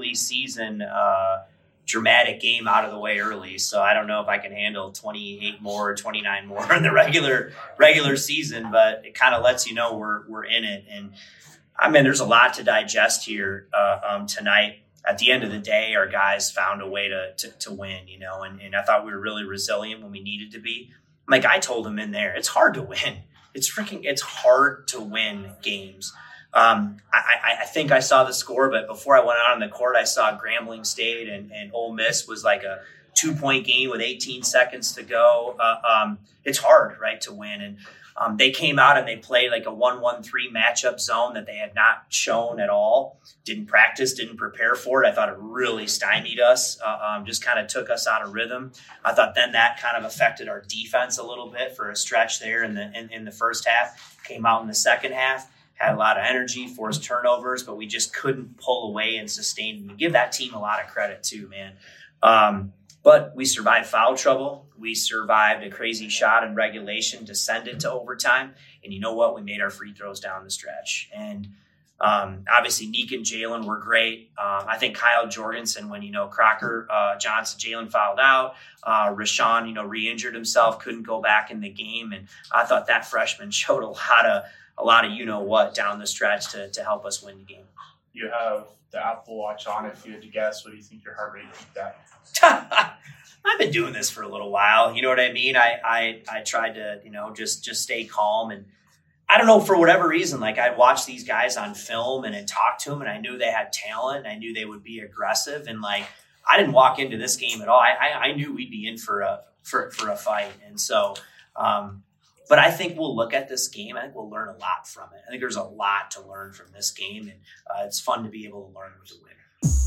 preseason dramatic game out of the way early. So I don't know if I can handle 28 more or 29 more in the regular season, but it kind of lets you know we're in it. And I mean, there's a lot to digest here tonight. At the end of the day, our guys found a way to win, you know, and I thought we were really resilient when we needed to be. Like I told them in there, it's hard to win. It's hard to win games. I think I saw the score, but before I went out on the court, I saw Grambling State and Ole Miss was like a 2-point game with 18 seconds to go. It's hard, right, to win. And they came out and they played like a 1-1-3 matchup zone that they had not shown at all. Didn't practice, didn't prepare for it. I thought it really stymied us, just kind of took us out of rhythm. I thought then that kind of affected our defense a little bit for a stretch there in the first half. Came out in the second half. Had a lot of energy, forced turnovers, but we just couldn't pull away and sustain. We give that team a lot of credit too, man. But we survived foul trouble. We survived a crazy shot in regulation to send it to overtime. And you know what? We made our free throws down the stretch. And obviously, Neek and Jalen were great. I think Kyle Jorgensen, when, Crocker, Johnson, Jalen fouled out, Rashawn, re-injured himself, couldn't go back in the game. And I thought that freshman showed a lot of you-know-what down the stretch to help us win the game. You have the Apple Watch on. If you had to guess, what do you think your heart rate peaked at? I've been doing this for a little while. You know what I mean? I tried to, just stay calm. And I don't know, for whatever reason, like I'd watch these guys on film and I'd talk to them and I knew they had talent and I knew they would be aggressive. And like, I didn't walk into this game at all. I knew we'd be in for a fight. And so, but I think we'll look at this game. I think we'll learn a lot from it. I think there's a lot to learn from this game, and it's fun to be able to learn to win.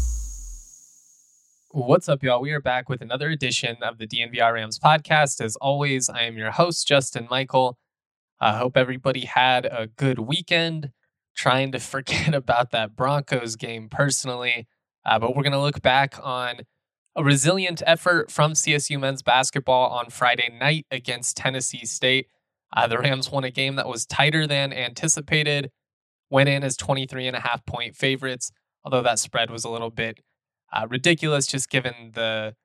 What's up, y'all? We are back with another edition of the DNVR Rams podcast. As always, I am your host, Justin Michael. I hope everybody had a good weekend. Trying to forget about that Broncos game personally, but we're going to look back on a resilient effort from CSU men's basketball on Friday night against Tennessee State. The Rams won a game that was tighter than anticipated, went in as 23.5-point favorites, although that spread was a little bit ridiculous just given the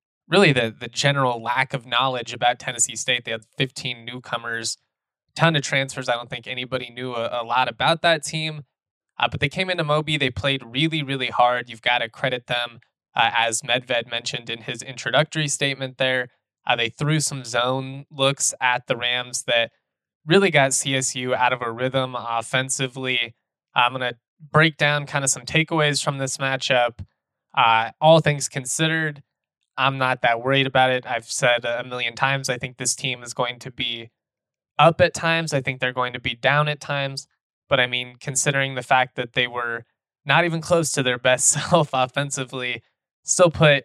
general lack of knowledge about Tennessee State. They had 15 newcomers, ton of transfers. I don't think anybody knew a lot about that team, but they came into Moby. They played really, really hard. You've got to credit them, as Medved mentioned in his introductory statement there. They threw some zone looks at the Rams that really got CSU out of a rhythm offensively. I'm going to break down kind of some takeaways from this matchup. All things considered, I'm not that worried about it. I've said a million times, I think this team is going to be up at times. I think they're going to be down at times. But I mean, considering the fact that they were not even close to their best self offensively, still put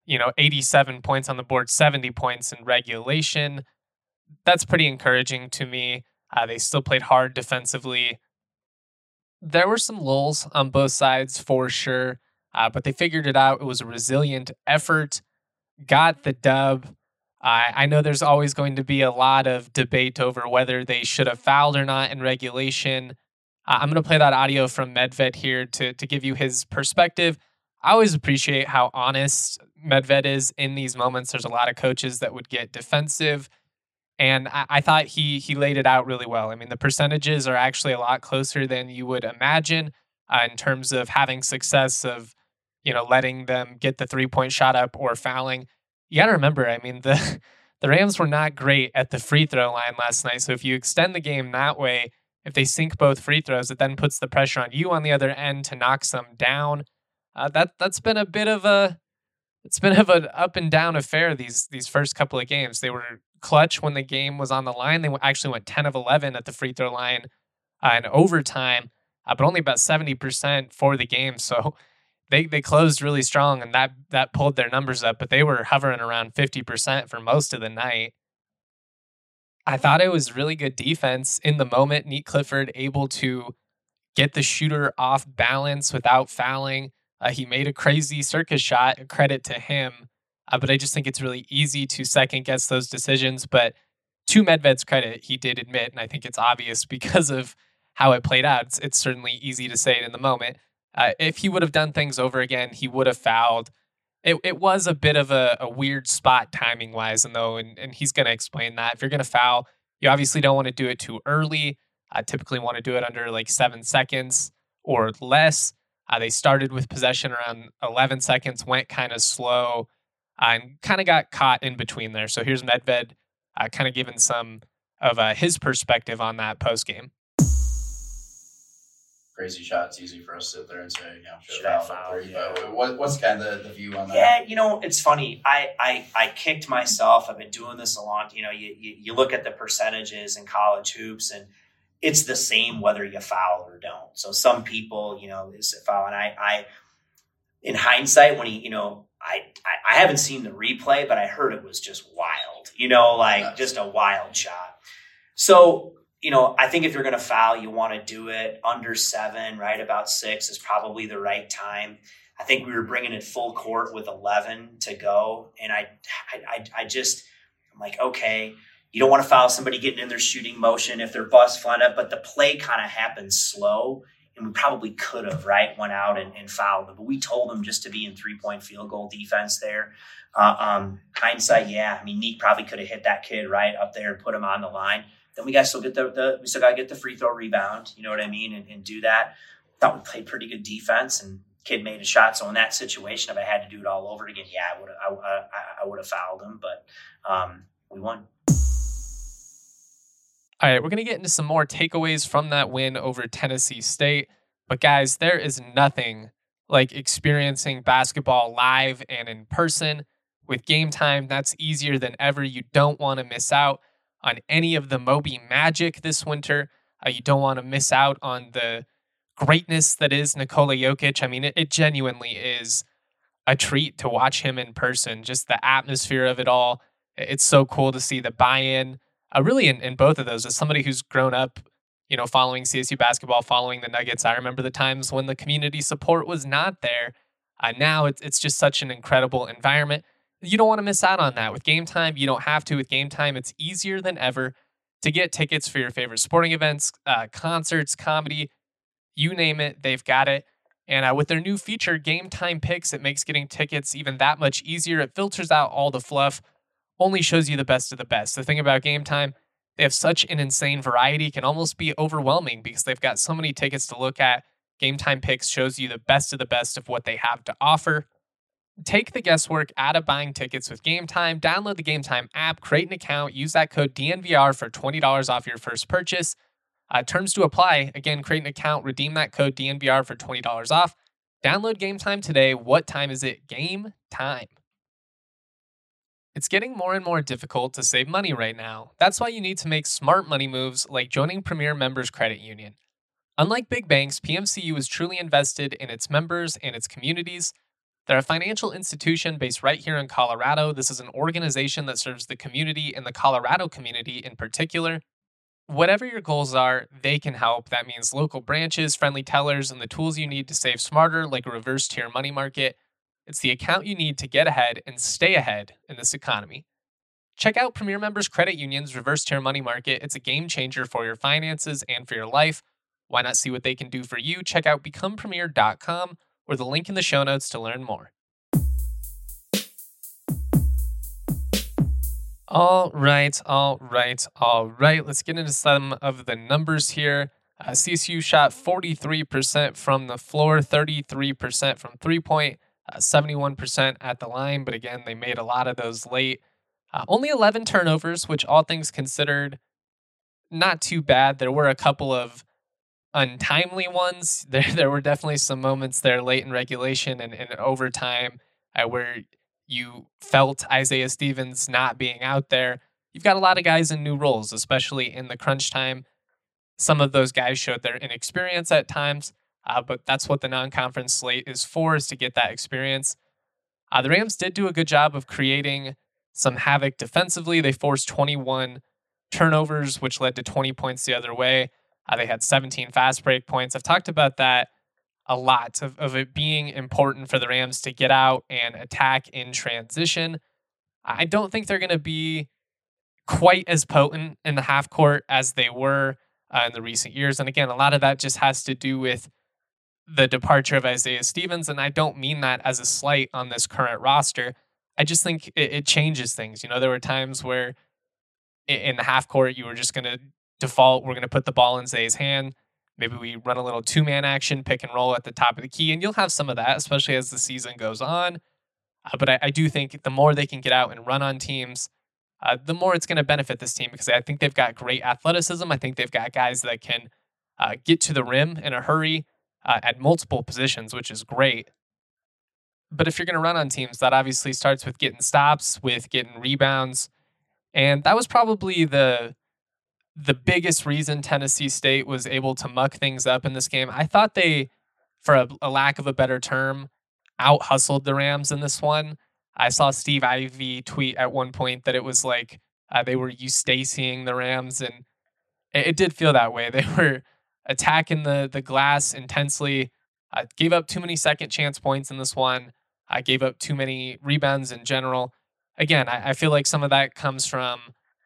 87 points on the board, 70 points in regulation. That's pretty encouraging to me. They still played hard defensively. There were some lulls on both sides for sure, but they figured it out. It was a resilient effort, got the dub. I know there's always going to be a lot of debate over whether they should have fouled or not in regulation. I'm going to play that audio from Medved here to give you his perspective. I always appreciate how honest Medved is in these moments. There's a lot of coaches that would get defensive, and I thought he laid it out really well. I mean, the percentages are actually a lot closer than you would imagine in terms of having success of, letting them get the 3-point shot up or fouling. You got to remember, I mean, the Rams were not great at the free throw line last night. So if you extend the game that way, if they sink both free throws, it then puts the pressure on you on the other end to knock some down. That's been a bit of an up and down affair these first couple of games. They were clutch when the game was on the line. They actually went 10 of 11 at the free throw line in overtime, but only about 70% for the game. So they closed really strong, and that pulled their numbers up. But they were hovering around 50% for most of the night. I thought it was really good defense in the moment. Neek Clifford able to get the shooter off balance without fouling. He made a crazy circus shot, a credit to him. But I just think it's really easy to second guess those decisions. But to Medved's credit, he did admit, and I think it's obvious because of how it played out. It's certainly easy to say it in the moment. If he would have done things over again, he would have fouled. It was a bit of a weird spot timing wise, and he's going to explain that. If you're going to foul, you obviously don't want to do it too early. I typically want to do it under like 7 seconds or less. They started with possession around 11 seconds, went kind of slow, and kind of got caught in between there. So here's Medved kind of giving some of his perspective on that post game. Crazy shot. It's easy for us to sit there and say, should have fouled. But what's kind of the view on that? Yeah, it's funny. I kicked myself. I've been doing this a long. You look at the percentages in college hoops, and it's the same whether you foul or don't. So some people, is a foul, and I in hindsight, when I haven't seen the replay, but I heard it was just wild. Just a wild shot. So. I think if you're going to foul, you want to do it under 7, right? About 6 is probably the right time. I think we were bringing it full court with 11 to go. And I'm like, okay, you don't want to foul somebody getting in their shooting motion if they're bust flat up, but the play kind of happens slow. And we probably could have, right, went out and fouled them. But we told them just to be in 3-point field goal defense there. Hindsight, yeah. I mean, Neek probably could have hit that kid right up there and put him on the line. Then we got to still get we still got to get the free throw rebound, you know what I mean, and do that. Thought we played pretty good defense, and kid made a shot. So in that situation, if I had to do it all over again, yeah, I would have fouled him, but we won. All right, we're gonna get into some more takeaways from that win over Tennessee State, but guys, there is nothing like experiencing basketball live and in person. With Game Time, that's easier than ever. You don't want to miss out on any of the Moby magic this winter. You don't want to miss out on the greatness that is Nikola Jokic. I mean, it genuinely is a treat to watch him in person. Just the atmosphere of it all. It's so cool to see the buy-in. Really, in both of those, as somebody who's grown up, following CSU basketball, following the Nuggets, I remember the times when the community support was not there. Now it's just such an incredible environment. You don't want to miss out on that. With Game Time, you don't have to. With Game Time, it's easier than ever to get tickets for your favorite sporting events, concerts, comedy, you name it, they've got it. And with their new feature, Game Time Picks, it makes getting tickets even that much easier. It filters out all the fluff, only shows you the best of the best. The thing about Game Time, they have such an insane variety, it can almost be overwhelming because they've got so many tickets to look at. Game Time Picks shows you the best of what they have to offer. Take the guesswork out of buying tickets with Game Time. Download the Game Time app, create an account, use that code DNVR for $20 off your first purchase. Terms to apply. Again, create an account, redeem that code DNVR for $20 off. Download Game Time today. What time is it? Game Time. It's getting more and more difficult to save money right now. That's why you need to make smart money moves like joining Premier Members Credit Union. Unlike big banks, PMCU is truly invested in its members and its communities. They're a financial institution based right here in Colorado. This is an organization that serves the community and the Colorado community in particular. Whatever your goals are, they can help. That means local branches, friendly tellers, and the tools you need to save smarter, like a reverse tier money market. It's the account you need to get ahead and stay ahead in this economy. Check out Premier Members Credit Union's reverse tier money market. It's a game changer for your finances and for your life. Why not see what they can do for you? Check out becomepremier.com or the link in the show notes to learn more. All right. Let's get into some of the numbers here. CSU shot 43% from the floor, 33% from three-point, 71% at the line. But again, they made a lot of those late. Only 11 turnovers, which all things considered, not too bad. There were a couple of untimely ones. There were definitely some moments there late in regulation and in overtime where you felt Isaiah Stevens not being out there. You've got a lot of guys in new roles, especially in the crunch time. Some of those guys showed their inexperience at times, but that's what the non-conference slate is for, is to get that experience. The Rams did do a good job of creating some havoc defensively. They forced 21 turnovers, which led to 20 points the other way. They had 17 fast break points. I've talked about that a lot, of it being important for the Rams to get out and attack in transition. I don't think they're going to be quite as potent in the half court as they were in the recent years. And again, a lot of that just has to do with the departure of Isaiah Stevens, and I don't mean that as a slight on this current roster. I just think it changes things. There were times where in the half court you were just going to default, we're going to put the ball in Zay's hand. Maybe we run a little two-man action, pick and roll at the top of the key, and you'll have some of that, especially as the season goes on. But I do think the more they can get out and run on teams, the more it's going to benefit this team, because I think they've got great athleticism. I think they've got guys that can get to the rim in a hurry at multiple positions, which is great. But if you're going to run on teams, that obviously starts with getting stops, with getting rebounds. And that was probably the biggest reason Tennessee State was able to muck things up in this game. I thought they, for a lack of a better term, out-hustled the Rams in this one. I saw Steve Ivey tweet at one point that it was like they were Eustaceing the Rams, and it did feel that way. They were attacking the glass intensely, gave up too many second chance points in this one. I gave up too many rebounds in general. Again, I feel like some of that comes from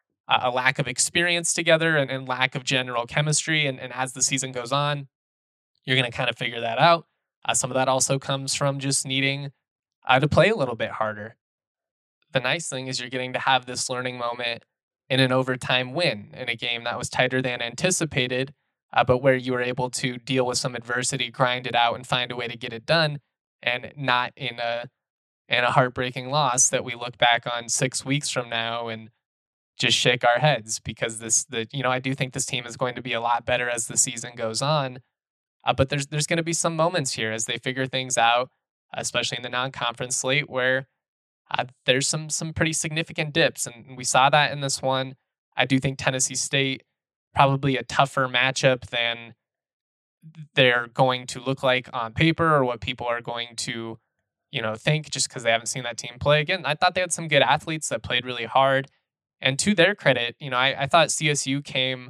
a lack of experience together and lack of general chemistry. And as the season goes on, you're going to kind of figure that out. Some of that also comes from just needing to play a little bit harder. The nice thing is you're getting to have this learning moment in an overtime win in a game that was tighter than anticipated, but where you were able to deal with some adversity, grind it out, and find a way to get it done, and not in a heartbreaking loss that we look back on 6 weeks from now and just shake our heads, because I do think this team is going to be a lot better as the season goes on. But there's going to be some moments here as they figure things out, especially in the non-conference slate, where there's some pretty significant dips, and we saw that in this one. I do think Tennessee State probably a tougher matchup than they're going to look like on paper, or what people are going to think, just because they haven't seen that team play. Again, I thought they had some good athletes that played really hard, and to their credit, I thought CSU came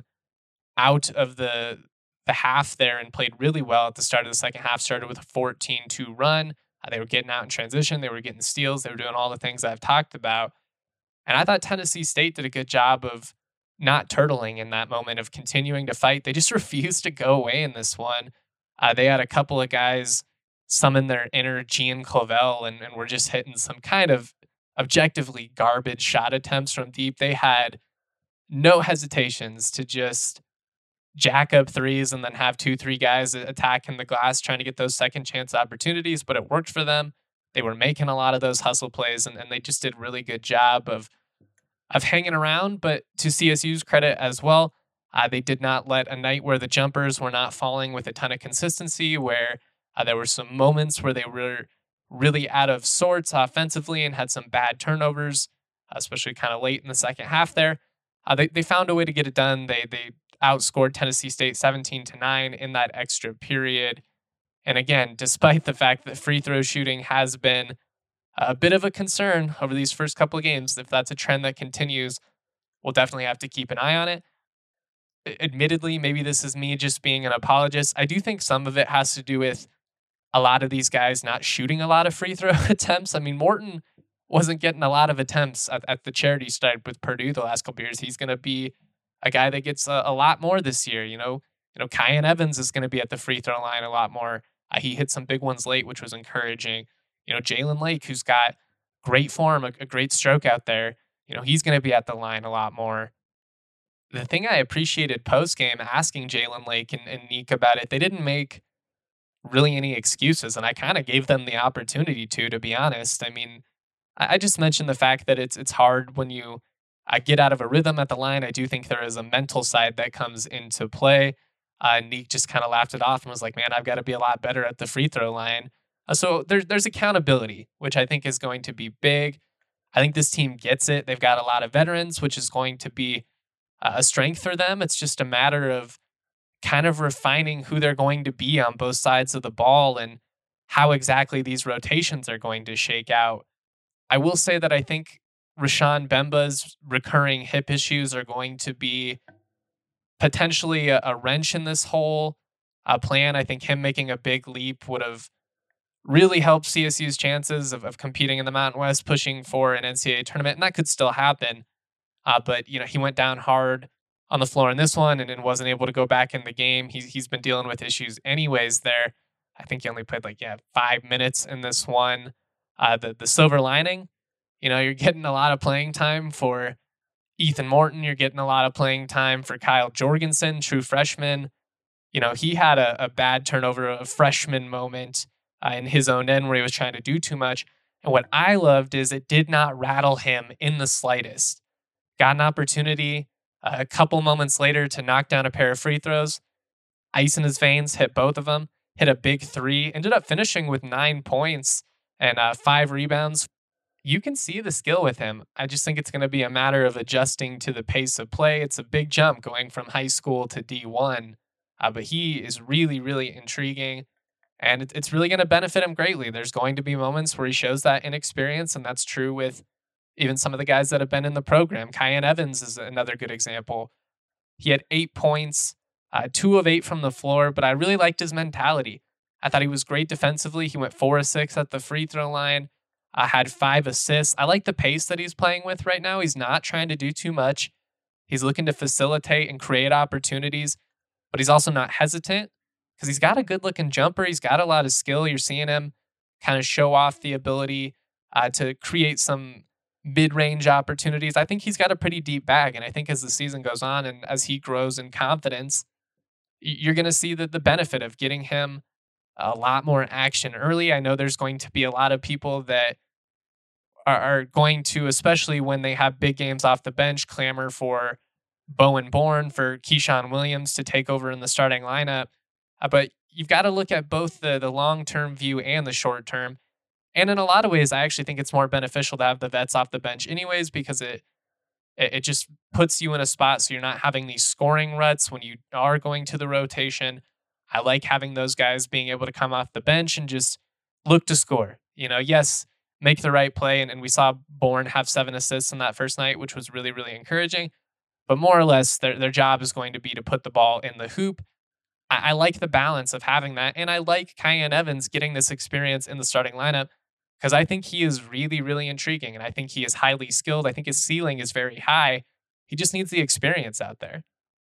out of the half there and played really well at the start of the second half. Started with a 14-2 run. They were getting out in transition. They were getting steals. They were doing all the things I've talked about. And I thought Tennessee State did a good job of not turtling in that moment, of continuing to fight. They just refused to go away in this one. They had a couple of guys summon their inner Gian Clavel and were just hitting some kind of objectively garbage shot attempts from deep. They had no hesitations to just jack up threes and then have 2-3 guys attacking the glass trying to get those second chance opportunities, but it worked for them. They were making a lot of those hustle plays, and they just did a really good job of hanging around. But to CSU's credit as well, they did not let a night where the jumpers were not falling with a ton of consistency, where there were some moments where they were really out of sorts offensively and had some bad turnovers, especially kind of late in the second half there. They found a way to get it done. They outscored Tennessee State 17-9 in that extra period. And again, despite the fact that free throw shooting has been a bit of a concern over these first couple of games, if that's a trend that continues, we'll definitely have to keep an eye on it. Admittedly, maybe this is me just being an apologist. I do think some of it has to do with a lot of these guys not shooting a lot of free throw attempts. I mean, Morton wasn't getting a lot of attempts at the charity stripe with Purdue the last couple of years. He's going to be a guy that gets a lot more this year. Kyan Evans is going to be at the free throw line a lot more. He hit some big ones late, which was encouraging. Jalen Lake, who's got great form, a great stroke out there, he's going to be at the line a lot more. The thing I appreciated post-game, asking Jalen Lake and Nick about it, they didn't make really any excuses, and I kind of gave them the opportunity to be honest. I mean, I just mentioned the fact that it's hard when you get out of a rhythm at the line. I do think there is a mental side that comes into play. Nick just kind of laughed it off and was like, man, I've got to be a lot better at the free throw line. So there's accountability, which I think is going to be big. I think this team gets it. They've got a lot of veterans, which is going to be a strength for them. It's just a matter of kind of refining who they're going to be on both sides of the ball and how exactly these rotations are going to shake out. I will say that I think Rashawn Bemba's recurring hip issues are going to be potentially a wrench in this whole plan. I think him making a big leap would have really helped CSU's chances of competing in the Mountain West, pushing for an NCAA tournament, and that could still happen. But he went down hard on the floor in this one and wasn't able to go back in the game. He's been dealing with issues anyways there. I think he only played 5 minutes in this one. The silver lining, you're getting a lot of playing time for Ethan Morton. You're getting a lot of playing time for Kyle Jorgensen, true freshman. He had a bad turnover, a freshman moment in his own end where he was trying to do too much. And what I loved is it did not rattle him in the slightest. Got an opportunity a couple moments later to knock down a pair of free throws. Ice in his veins, hit both of them, hit a big three, ended up finishing with 9 points and 5 rebounds. You can see the skill with him. I just think it's going to be a matter of adjusting to the pace of play. It's a big jump going from high school to D1, but he is really, really intriguing, and it's really going to benefit him greatly. There's going to be moments where he shows that inexperience, and that's true with even some of the guys that have been in the program. Kyan Evans is another good example. He had 8 points, 2 of 8 from the floor, but I really liked his mentality. I thought he was great defensively. He went 4 of 6 at the free throw line. Had 5 assists. I like the pace that he's playing with right now. He's not trying to do too much. He's looking to facilitate and create opportunities, but he's also not hesitant because he's got a good-looking jumper. He's got a lot of skill. You're seeing him kind of show off the ability to create some mid-range opportunities. I think he's got a pretty deep bag, and I think as the season goes on and as he grows in confidence, you're going to see the benefit of getting him a lot more action early. I know there's going to be a lot of people that are going to, especially when they have big games off the bench, clamor for Bowen Bourne, for Keyshawn Williams to take over in the starting lineup. But you've got to look at both the long-term view and the short-term. And in a lot of ways, I actually think it's more beneficial to have the vets off the bench anyways, because it just puts you in a spot so you're not having these scoring ruts when you are going to the rotation. I like having those guys being able to come off the bench and just look to score. Yes, make the right play. And we saw Bourne have 7 assists on that first night, which was really, really encouraging. But more or less, their job is going to be to put the ball in the hoop. I like the balance of having that. And I like Kyan Evans getting this experience in the starting lineup because I think he is really, really intriguing. And I think he is highly skilled. I think his ceiling is very high. He just needs the experience out there.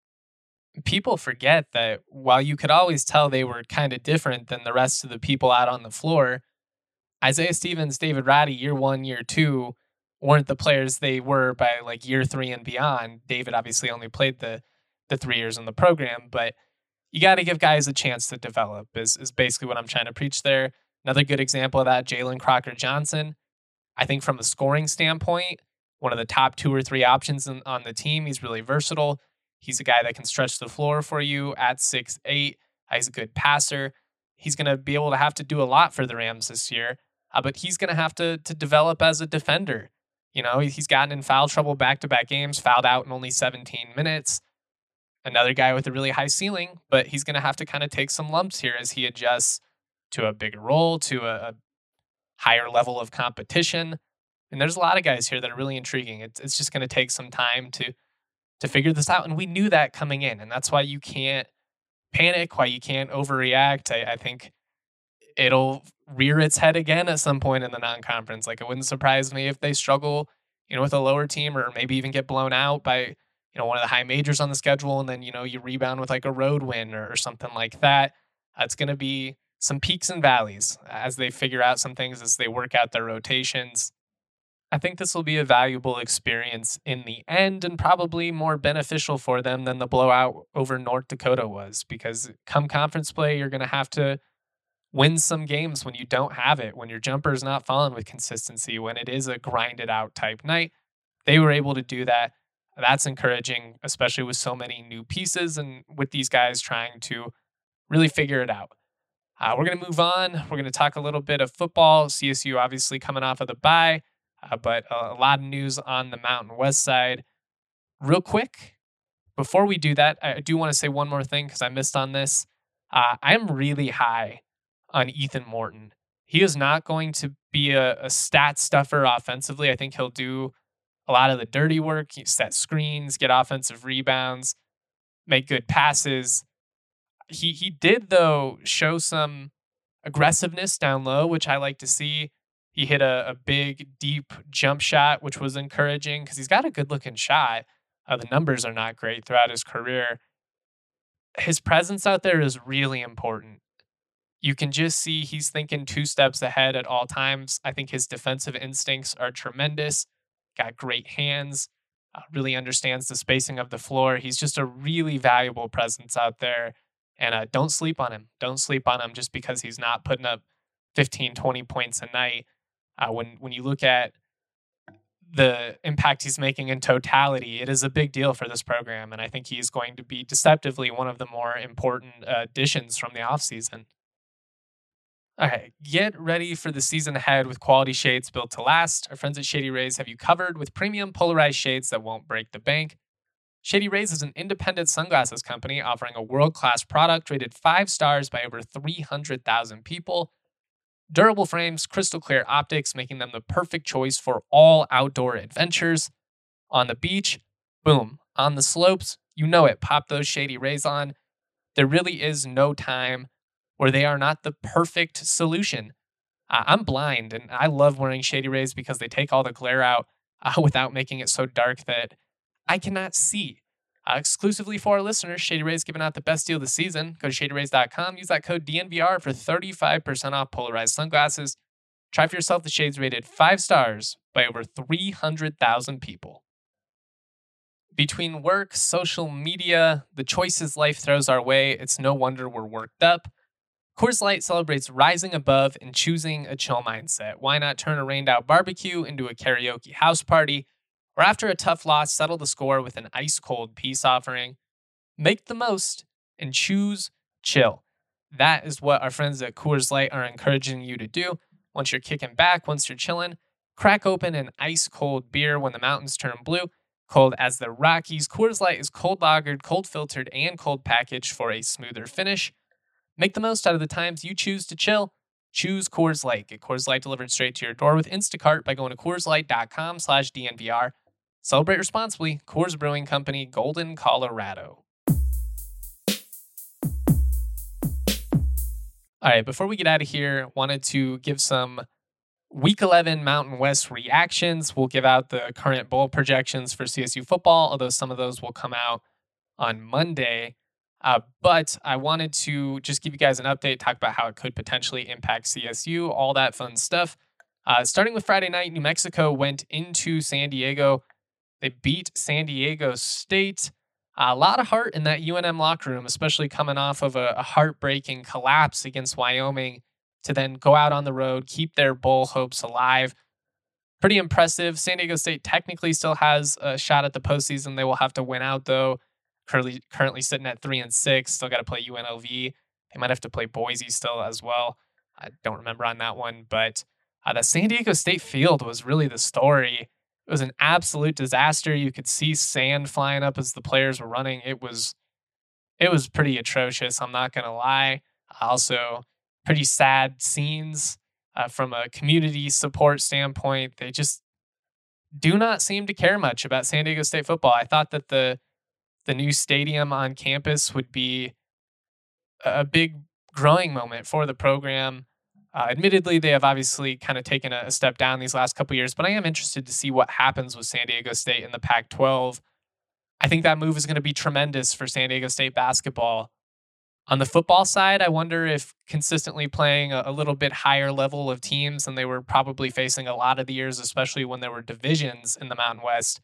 People forget that while you could always tell they were kind of different than the rest of the people out on the floor, Isaiah Stevens, David Roddy, year 1, year 2, weren't the players they were by year 3 and beyond. David obviously only played the 3 years in the program, but you got to give guys a chance to develop is basically what I'm trying to preach there. Another good example of that, Jalen Crocker-Johnson. I think from a scoring standpoint, one of the top 2 or 3 options on the team. He's really versatile. He's a guy that can stretch the floor for you at 6'8". He's a good passer. He's going to be able to have to do a lot for the Rams this year, but he's going to have to develop as a defender. He's gotten in foul trouble back-to-back games, fouled out in only 17 minutes. Another guy with a really high ceiling, but he's going to have to kind of take some lumps here as he adjusts to a bigger role, to a higher level of competition. And there's a lot of guys here that are really intriguing. It's just going to take some time to figure this out. And we knew that coming in. And that's why you can't panic, why you can't overreact. I think it'll rear its head again at some point in the non-conference. It wouldn't surprise me if they struggle, with a lower team or maybe even get blown out by, one of the high majors on the schedule. And then, you rebound with a road win or something like that. It's going to be some peaks and valleys as they figure out some things, as they work out their rotations. I think this will be a valuable experience in the end and probably more beneficial for them than the blowout over North Dakota was, because come conference play, you're going to have to win some games when you don't have it, when your jumper is not falling with consistency, when it is a grinded out type night. They were able to do that. That's encouraging, especially with so many new pieces and with these guys trying to really figure it out. We're going to move on. We're going to talk a little bit of football. CSU obviously coming off of the bye. But a lot of news on the Mountain West side. Real quick, before we do that, I do want to say one more thing because I missed on this. I'm really high on Ethan Morton. He is not going to be a stat stuffer offensively. I think he'll do a lot of the dirty work. He set screens, get offensive rebounds, make good passes. He did, though, show some aggressiveness down low, which I like to see. He hit a big, deep jump shot, which was encouraging because he's got a good-looking shot. The numbers are not great throughout his career. His presence out there is really important. You can just see he's thinking 2 steps ahead at all times. I think his defensive instincts are tremendous. Got great hands, really understands the spacing of the floor. He's just a really valuable presence out there. And don't sleep on him. Don't sleep on him just because he's not putting up 15, 20 points a night. When you look at the impact he's making in totality, it is a big deal for this program. And I think he's going to be deceptively one of the more important additions from the offseason. All right, get ready for the season ahead with quality shades built to last. Our friends at Shady Rays have you covered with premium polarized shades that won't break the bank. Shady Rays is an independent sunglasses company offering a world-class product rated 5 stars by over 300,000 people. Durable frames, crystal clear optics, making them the perfect choice for all outdoor adventures. On the beach, boom. On the slopes, you know it, pop those Shady Rays on. There really is no time where they are not the perfect solution. I'm blind, and I love wearing Shady Rays because they take all the glare out without making it so dark that I cannot see. Exclusively for our listeners, Shady Rays giving out the best deal this season. Go to shadyrays.com. Use that code DNVR for 35% off polarized sunglasses. Try for yourself the shades rated 5 stars by over 300,000 people. Between work, social media, the choices life throws our way, it's no wonder we're worked up. Coors Light celebrates rising above and choosing a chill mindset. Why not turn a rained-out barbecue into a karaoke house party? Or after a tough loss, settle the score with an ice-cold peace offering. Make the most and choose chill. That is what our friends at Coors Light are encouraging you to do. Once you're kicking back, once you're chilling, crack open an ice-cold beer when the mountains turn blue. Cold as the Rockies, Coors Light is cold lagered, cold filtered, and cold packaged for a smoother finish. Make the most out of the times you choose to chill. Choose Coors Light. Get Coors Light delivered straight to your door with Instacart by going to CoorsLight.com/DNVR. Celebrate responsibly. Coors Brewing Company, Golden, Colorado. All right, before we get out of here, wanted to give some Week 11 Mountain West reactions. We'll give out the current bowl projections for CSU football, although some of those will come out on Monday. But I wanted to just give you guys an update, talk about how it could potentially impact CSU, all that fun stuff. Starting with Friday night, New Mexico went into San Diego. They beat San Diego State. A lot of heart in that UNM locker room, especially coming off of a heartbreaking collapse against Wyoming, to then go out on the road, keep their bowl hopes alive. Pretty impressive. San Diego State technically still has a shot at the postseason. They will have to win out, though. Currently sitting at 3-6. Still got to play UNLV. They might have to play Boise still as well. I don't remember on that one. But the San Diego State field was really the story. It was an absolute disaster. You could see sand flying up as the players were running. It was pretty atrocious. I'm not going to lie. Also, pretty sad scenes from a community support standpoint. They just do not seem to care much about San Diego State football. I thought that the new stadium on campus would be a big growing moment for the program. Admittedly, they have obviously kind of taken a step down these last couple years, but I am interested to see what happens with San Diego State in the Pac-12. I think that move is going to be tremendous for San Diego State basketball. On the football side, I wonder if consistently playing a little bit higher level of teams than they were probably facing a lot of the years, especially when there were divisions in the Mountain West,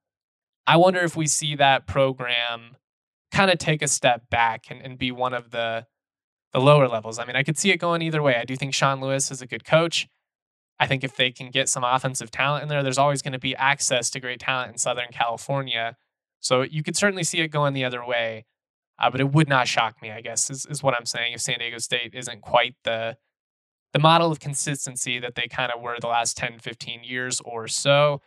I wonder if we see that program kind of take a step back and be one of the lower levels. I mean, I could see it going either way. I do think Sean Lewis is a good coach. I think if they can get some offensive talent in there, there's always going to be access to great talent in Southern California. So you could certainly see it going the other way. But it would not shock me, I guess, is what I'm saying, if San Diego State isn't quite the model of consistency that they kind of were the last 10, 15 years or so.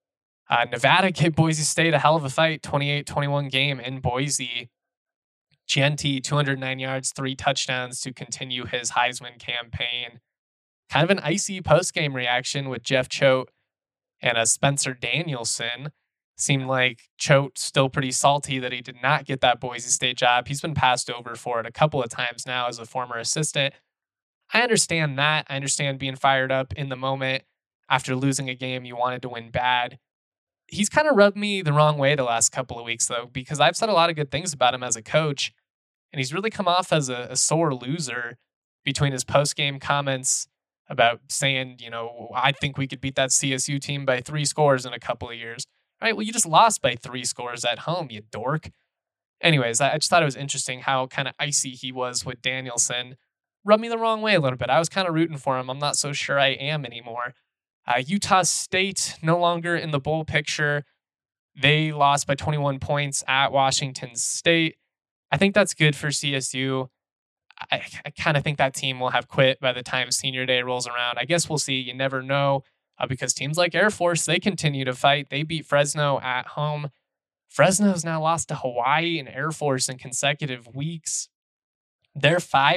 Nevada gave Boise State a hell of a fight, 28-21 game in Boise. Gianti, 209 yards, 3 touchdowns to continue his Heisman campaign. Kind of an icy post-game reaction with Jeff Choate and Spencer Danielson. Seemed like Choate still pretty salty that he did not get that Boise State job. He's been passed over for it a couple of times now as a former assistant. I understand that. I understand being fired up in the moment after losing a game you wanted to win bad. He's kind of rubbed me the wrong way the last couple of weeks, though, because I've said a lot of good things about him as a coach, and he's really come off as a sore loser between his post-game comments about saying, I think we could beat that CSU team by 3 scores in a couple of years. Right? Well, you just lost by 3 scores at home, you dork. Anyways, I just thought it was interesting how kind of icy he was with Danielson. Rubbed me the wrong way a little bit. I was kind of rooting for him. I'm not so sure I am anymore. Utah State no longer in the bowl picture. They lost by 21 points at Washington State. I think that's good for CSU. I kind of think that team will have quit by the time senior day rolls around. I guess we'll see. You never know because teams like Air Force, they continue to fight. They beat Fresno at home. Fresno's now lost to Hawaii and Air Force in consecutive weeks. They're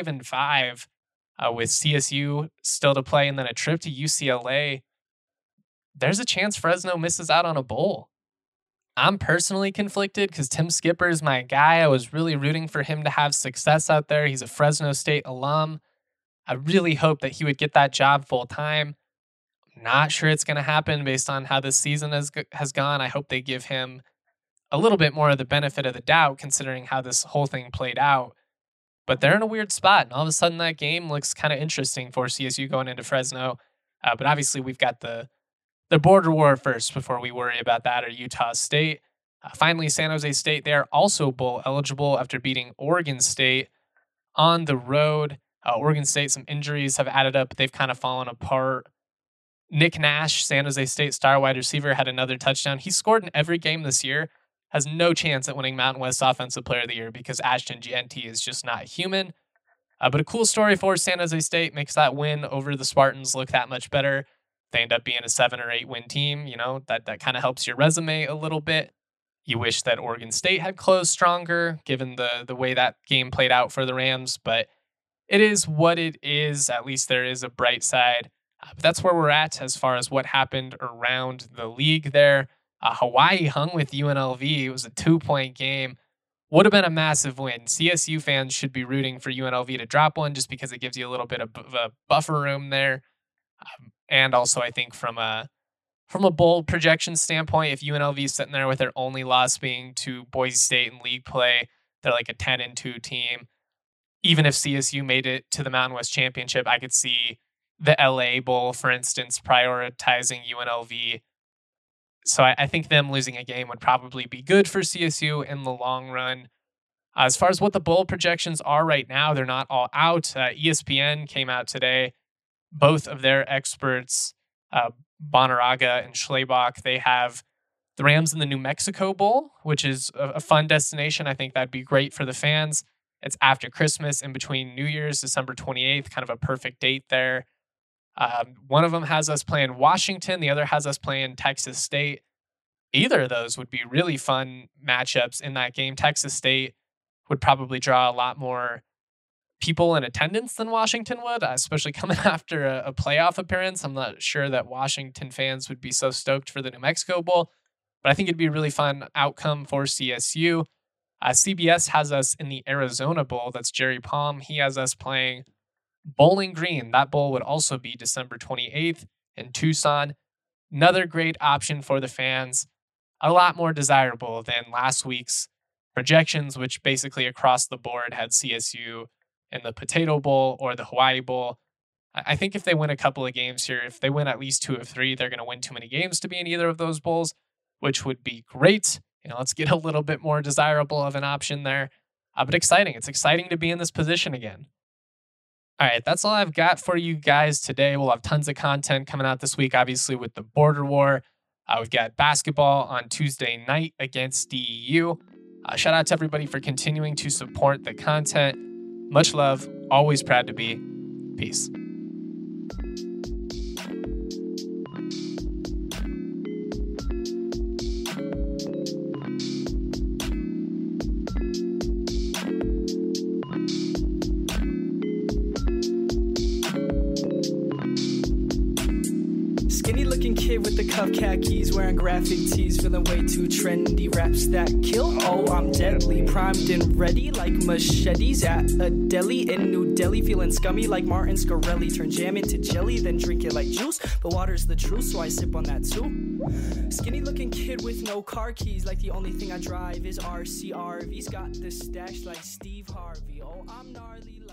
5-5 with CSU still to play and then a trip to UCLA. There's a chance Fresno misses out on a bowl. I'm personally conflicted because Tim Skipper is my guy. I was really rooting for him to have success out there. He's a Fresno State alum. I really hope that he would get that job full time. Not sure it's going to happen based on how this season has gone. I hope they give him a little bit more of the benefit of the doubt considering how this whole thing played out. But they're in a weird spot, and all of a sudden that game looks kind of interesting for CSU going into Fresno. But obviously we've got the border war first before we worry about that, or Utah State. Finally, San Jose State, they are also bowl eligible after beating Oregon State on the road. Oregon State, some injuries have added up. They've kind of fallen apart. Nick Nash, San Jose State star wide receiver, had another touchdown. He scored in every game this year. Has no chance at winning Mountain West Offensive Player of the Year because Ashton Jeanty is just not human. But a cool story for San Jose State, makes that win over the Spartans look that much better. They end up being a 7 or 8 win team. That kind of helps your resume a little bit. You wish that Oregon State had closed stronger given the way that game played out for the Rams, but it is what it is. At least there is a bright side. But that's where we're at as far as what happened around the league there. Hawaii hung with UNLV. It was a 2-point game. Would have been a massive win. CSU fans should be rooting for UNLV to drop one just because it gives you a little bit of a buffer room there. And also, I think from a bowl projection standpoint, if UNLV is sitting there with their only loss being to Boise State in league play, they're like a 10-2 team. Even if CSU made it to the Mountain West Championship, I could see the LA Bowl, for instance, prioritizing UNLV. So I think them losing a game would probably be good for CSU in the long run. As far as what the bowl projections are right now, they're not all out. ESPN came out today. Both of their experts, Bonaraga and Schlebach, they have the Rams in the New Mexico Bowl, which is a fun destination. I think that'd be great for the fans. It's after Christmas, in between New Year's, December 28th, kind of a perfect date there. One of them has us playing Washington. The other has us playing Texas State. Either of those would be really fun matchups in that game. Texas State would probably draw a lot more people in attendance than Washington would, especially coming after a playoff appearance. I'm not sure that Washington fans would be so stoked for the New Mexico Bowl, but I think it'd be a really fun outcome for CSU. CBS has us in the Arizona Bowl. That's Jerry Palm. He has us playing Bowling Green. That bowl would also be December 28th in Tucson. Another great option for the fans. A lot more desirable than last week's projections, which basically across the board had CSU in the Potato Bowl or the Hawaii Bowl. I think if they win a couple of games here, if they win at least 2 of 3, they're going to win too many games to be in either of those bowls, which would be great. Let's get a little bit more desirable of an option there. But exciting. It's exciting to be in this position again. All right, that's all I've got for you guys today. We'll have tons of content coming out this week, obviously, with the border war. We've got basketball on Tuesday night against DEU. Shout out to everybody for continuing to support the content. Much love. Always proud to be. Peace. Kid with the cuff khakis, wearing graphic tees, feeling way too trendy. Raps that kill, oh I'm deadly, primed and ready like machetes at a deli in New Delhi. Feeling scummy like Martin Scarelli, turn jam into jelly, then drink it like juice. But water's the truth, so I sip on that too. Skinny looking kid with no car keys, like the only thing I drive is RCRV's got the stash like Steve Harvey. Oh I'm gnarly.